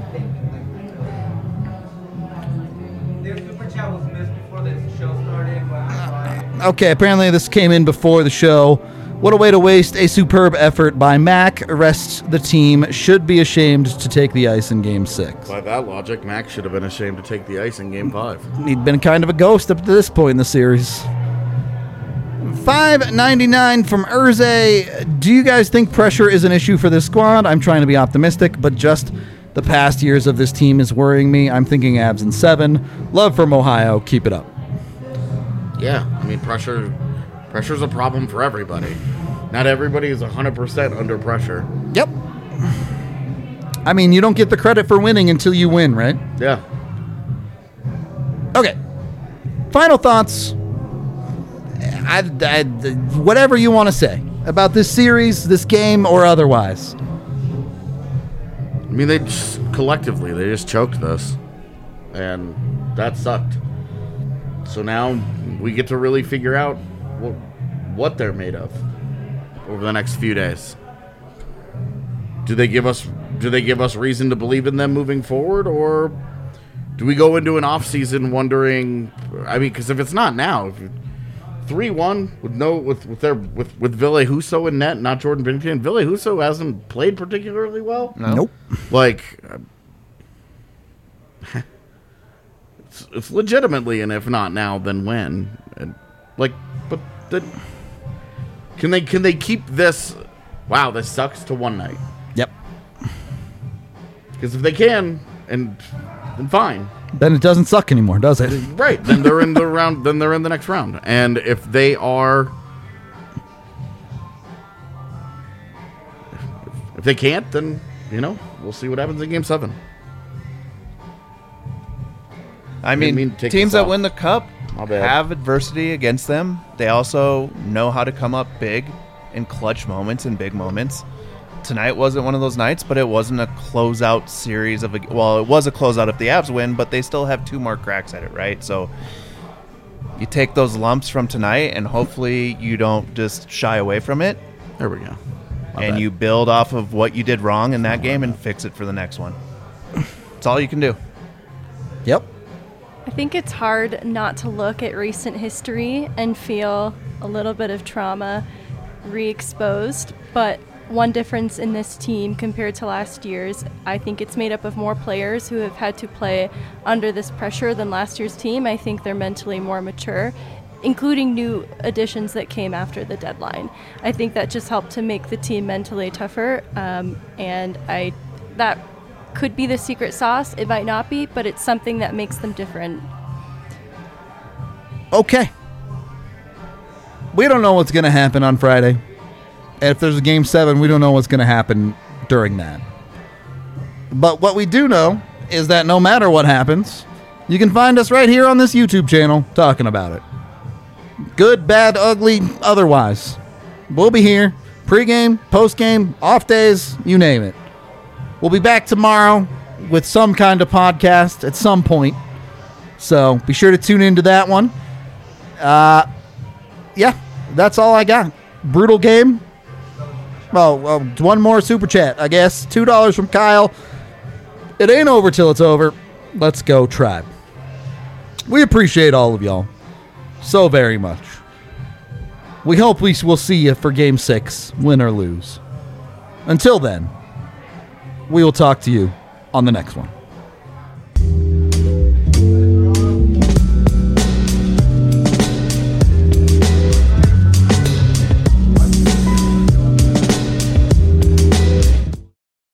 Okay, apparently this came in before the show. What a way to waste a superb effort by Mac. Rest the team should be ashamed to take the ice in Game 6. By that logic, Mac should have been ashamed to take the ice in Game 5. He'd been kind of a ghost up to this point in the series. $5.99 from Urze. Do you guys think pressure is an issue for this squad? I'm trying to be optimistic, but just the past years of this team is worrying me. I'm thinking Avs in 7. Love from Ohio. Keep it up. Yeah, I mean, pressure's a problem for everybody. Not everybody is 100% under pressure. Yep. I mean, you don't get the credit for winning until you win, right? Yeah. Okay. Final thoughts. Whatever you want to say about this series, this game, or otherwise. I mean, they just choked this. And that sucked. So now we get to really figure out what they're made of over the next few days. Do they give us reason to believe in them moving forward, or do we go into an off season wondering? I mean, because if it's not now, 3-1 with Ville Husso in net, not Jordan Binnington. Ville Husso hasn't played particularly well. No. Nope. Like. It's legitimately, and if not now, then when? And can they keep this? Wow, this sucks to one night. Yep. Because if they can, then fine. Then it doesn't suck anymore, does it? Right. Then they're in the round. Then they're in the next round. And if they are, if they can't, then we'll see what happens in Game 7. I mean, take teams this that off. win the cup My bad. have adversity against them. They also know how to come up big in clutch moments and big moments. Tonight wasn't one of those nights, but it wasn't a closeout series of it was a closeout if the Avs win, but they still have 2 more cracks at it, right? So you take those lumps from tonight, and hopefully you don't just shy away from it, There we go. My and bad. you build off of what you did wrong in that game and fix it for the next one. That's all you can do. Yep. I think it's hard not to look at recent history and feel a little bit of trauma re-exposed, but one difference in this team compared to last year's, I think it's made up of more players who have had to play under this pressure than last year's team. I think they're mentally more mature, including new additions that came after the deadline. I think that just helped to make the team mentally tougher, and that could be the secret sauce. It might not be, but it's something that makes them different. Okay. We don't know what's going to happen on Friday. And if there's a Game 7, we don't know what's going to happen during that. But what we do know is that no matter what happens, you can find us right here on this YouTube channel talking about it. Good, bad, ugly, otherwise. We'll be here. Pre-game, post-game, off days, you name it. We'll be back tomorrow with some kind of podcast at some point. So be sure to tune into that one. Yeah, that's all I got. Brutal game. Well, one more super chat, I guess. $2 from Kyle. It ain't over till it's over. Let's go, Tribe. We appreciate all of y'all so very much. We hope we will see you for Game 6, win or lose. Until then, we will talk to you on the next one.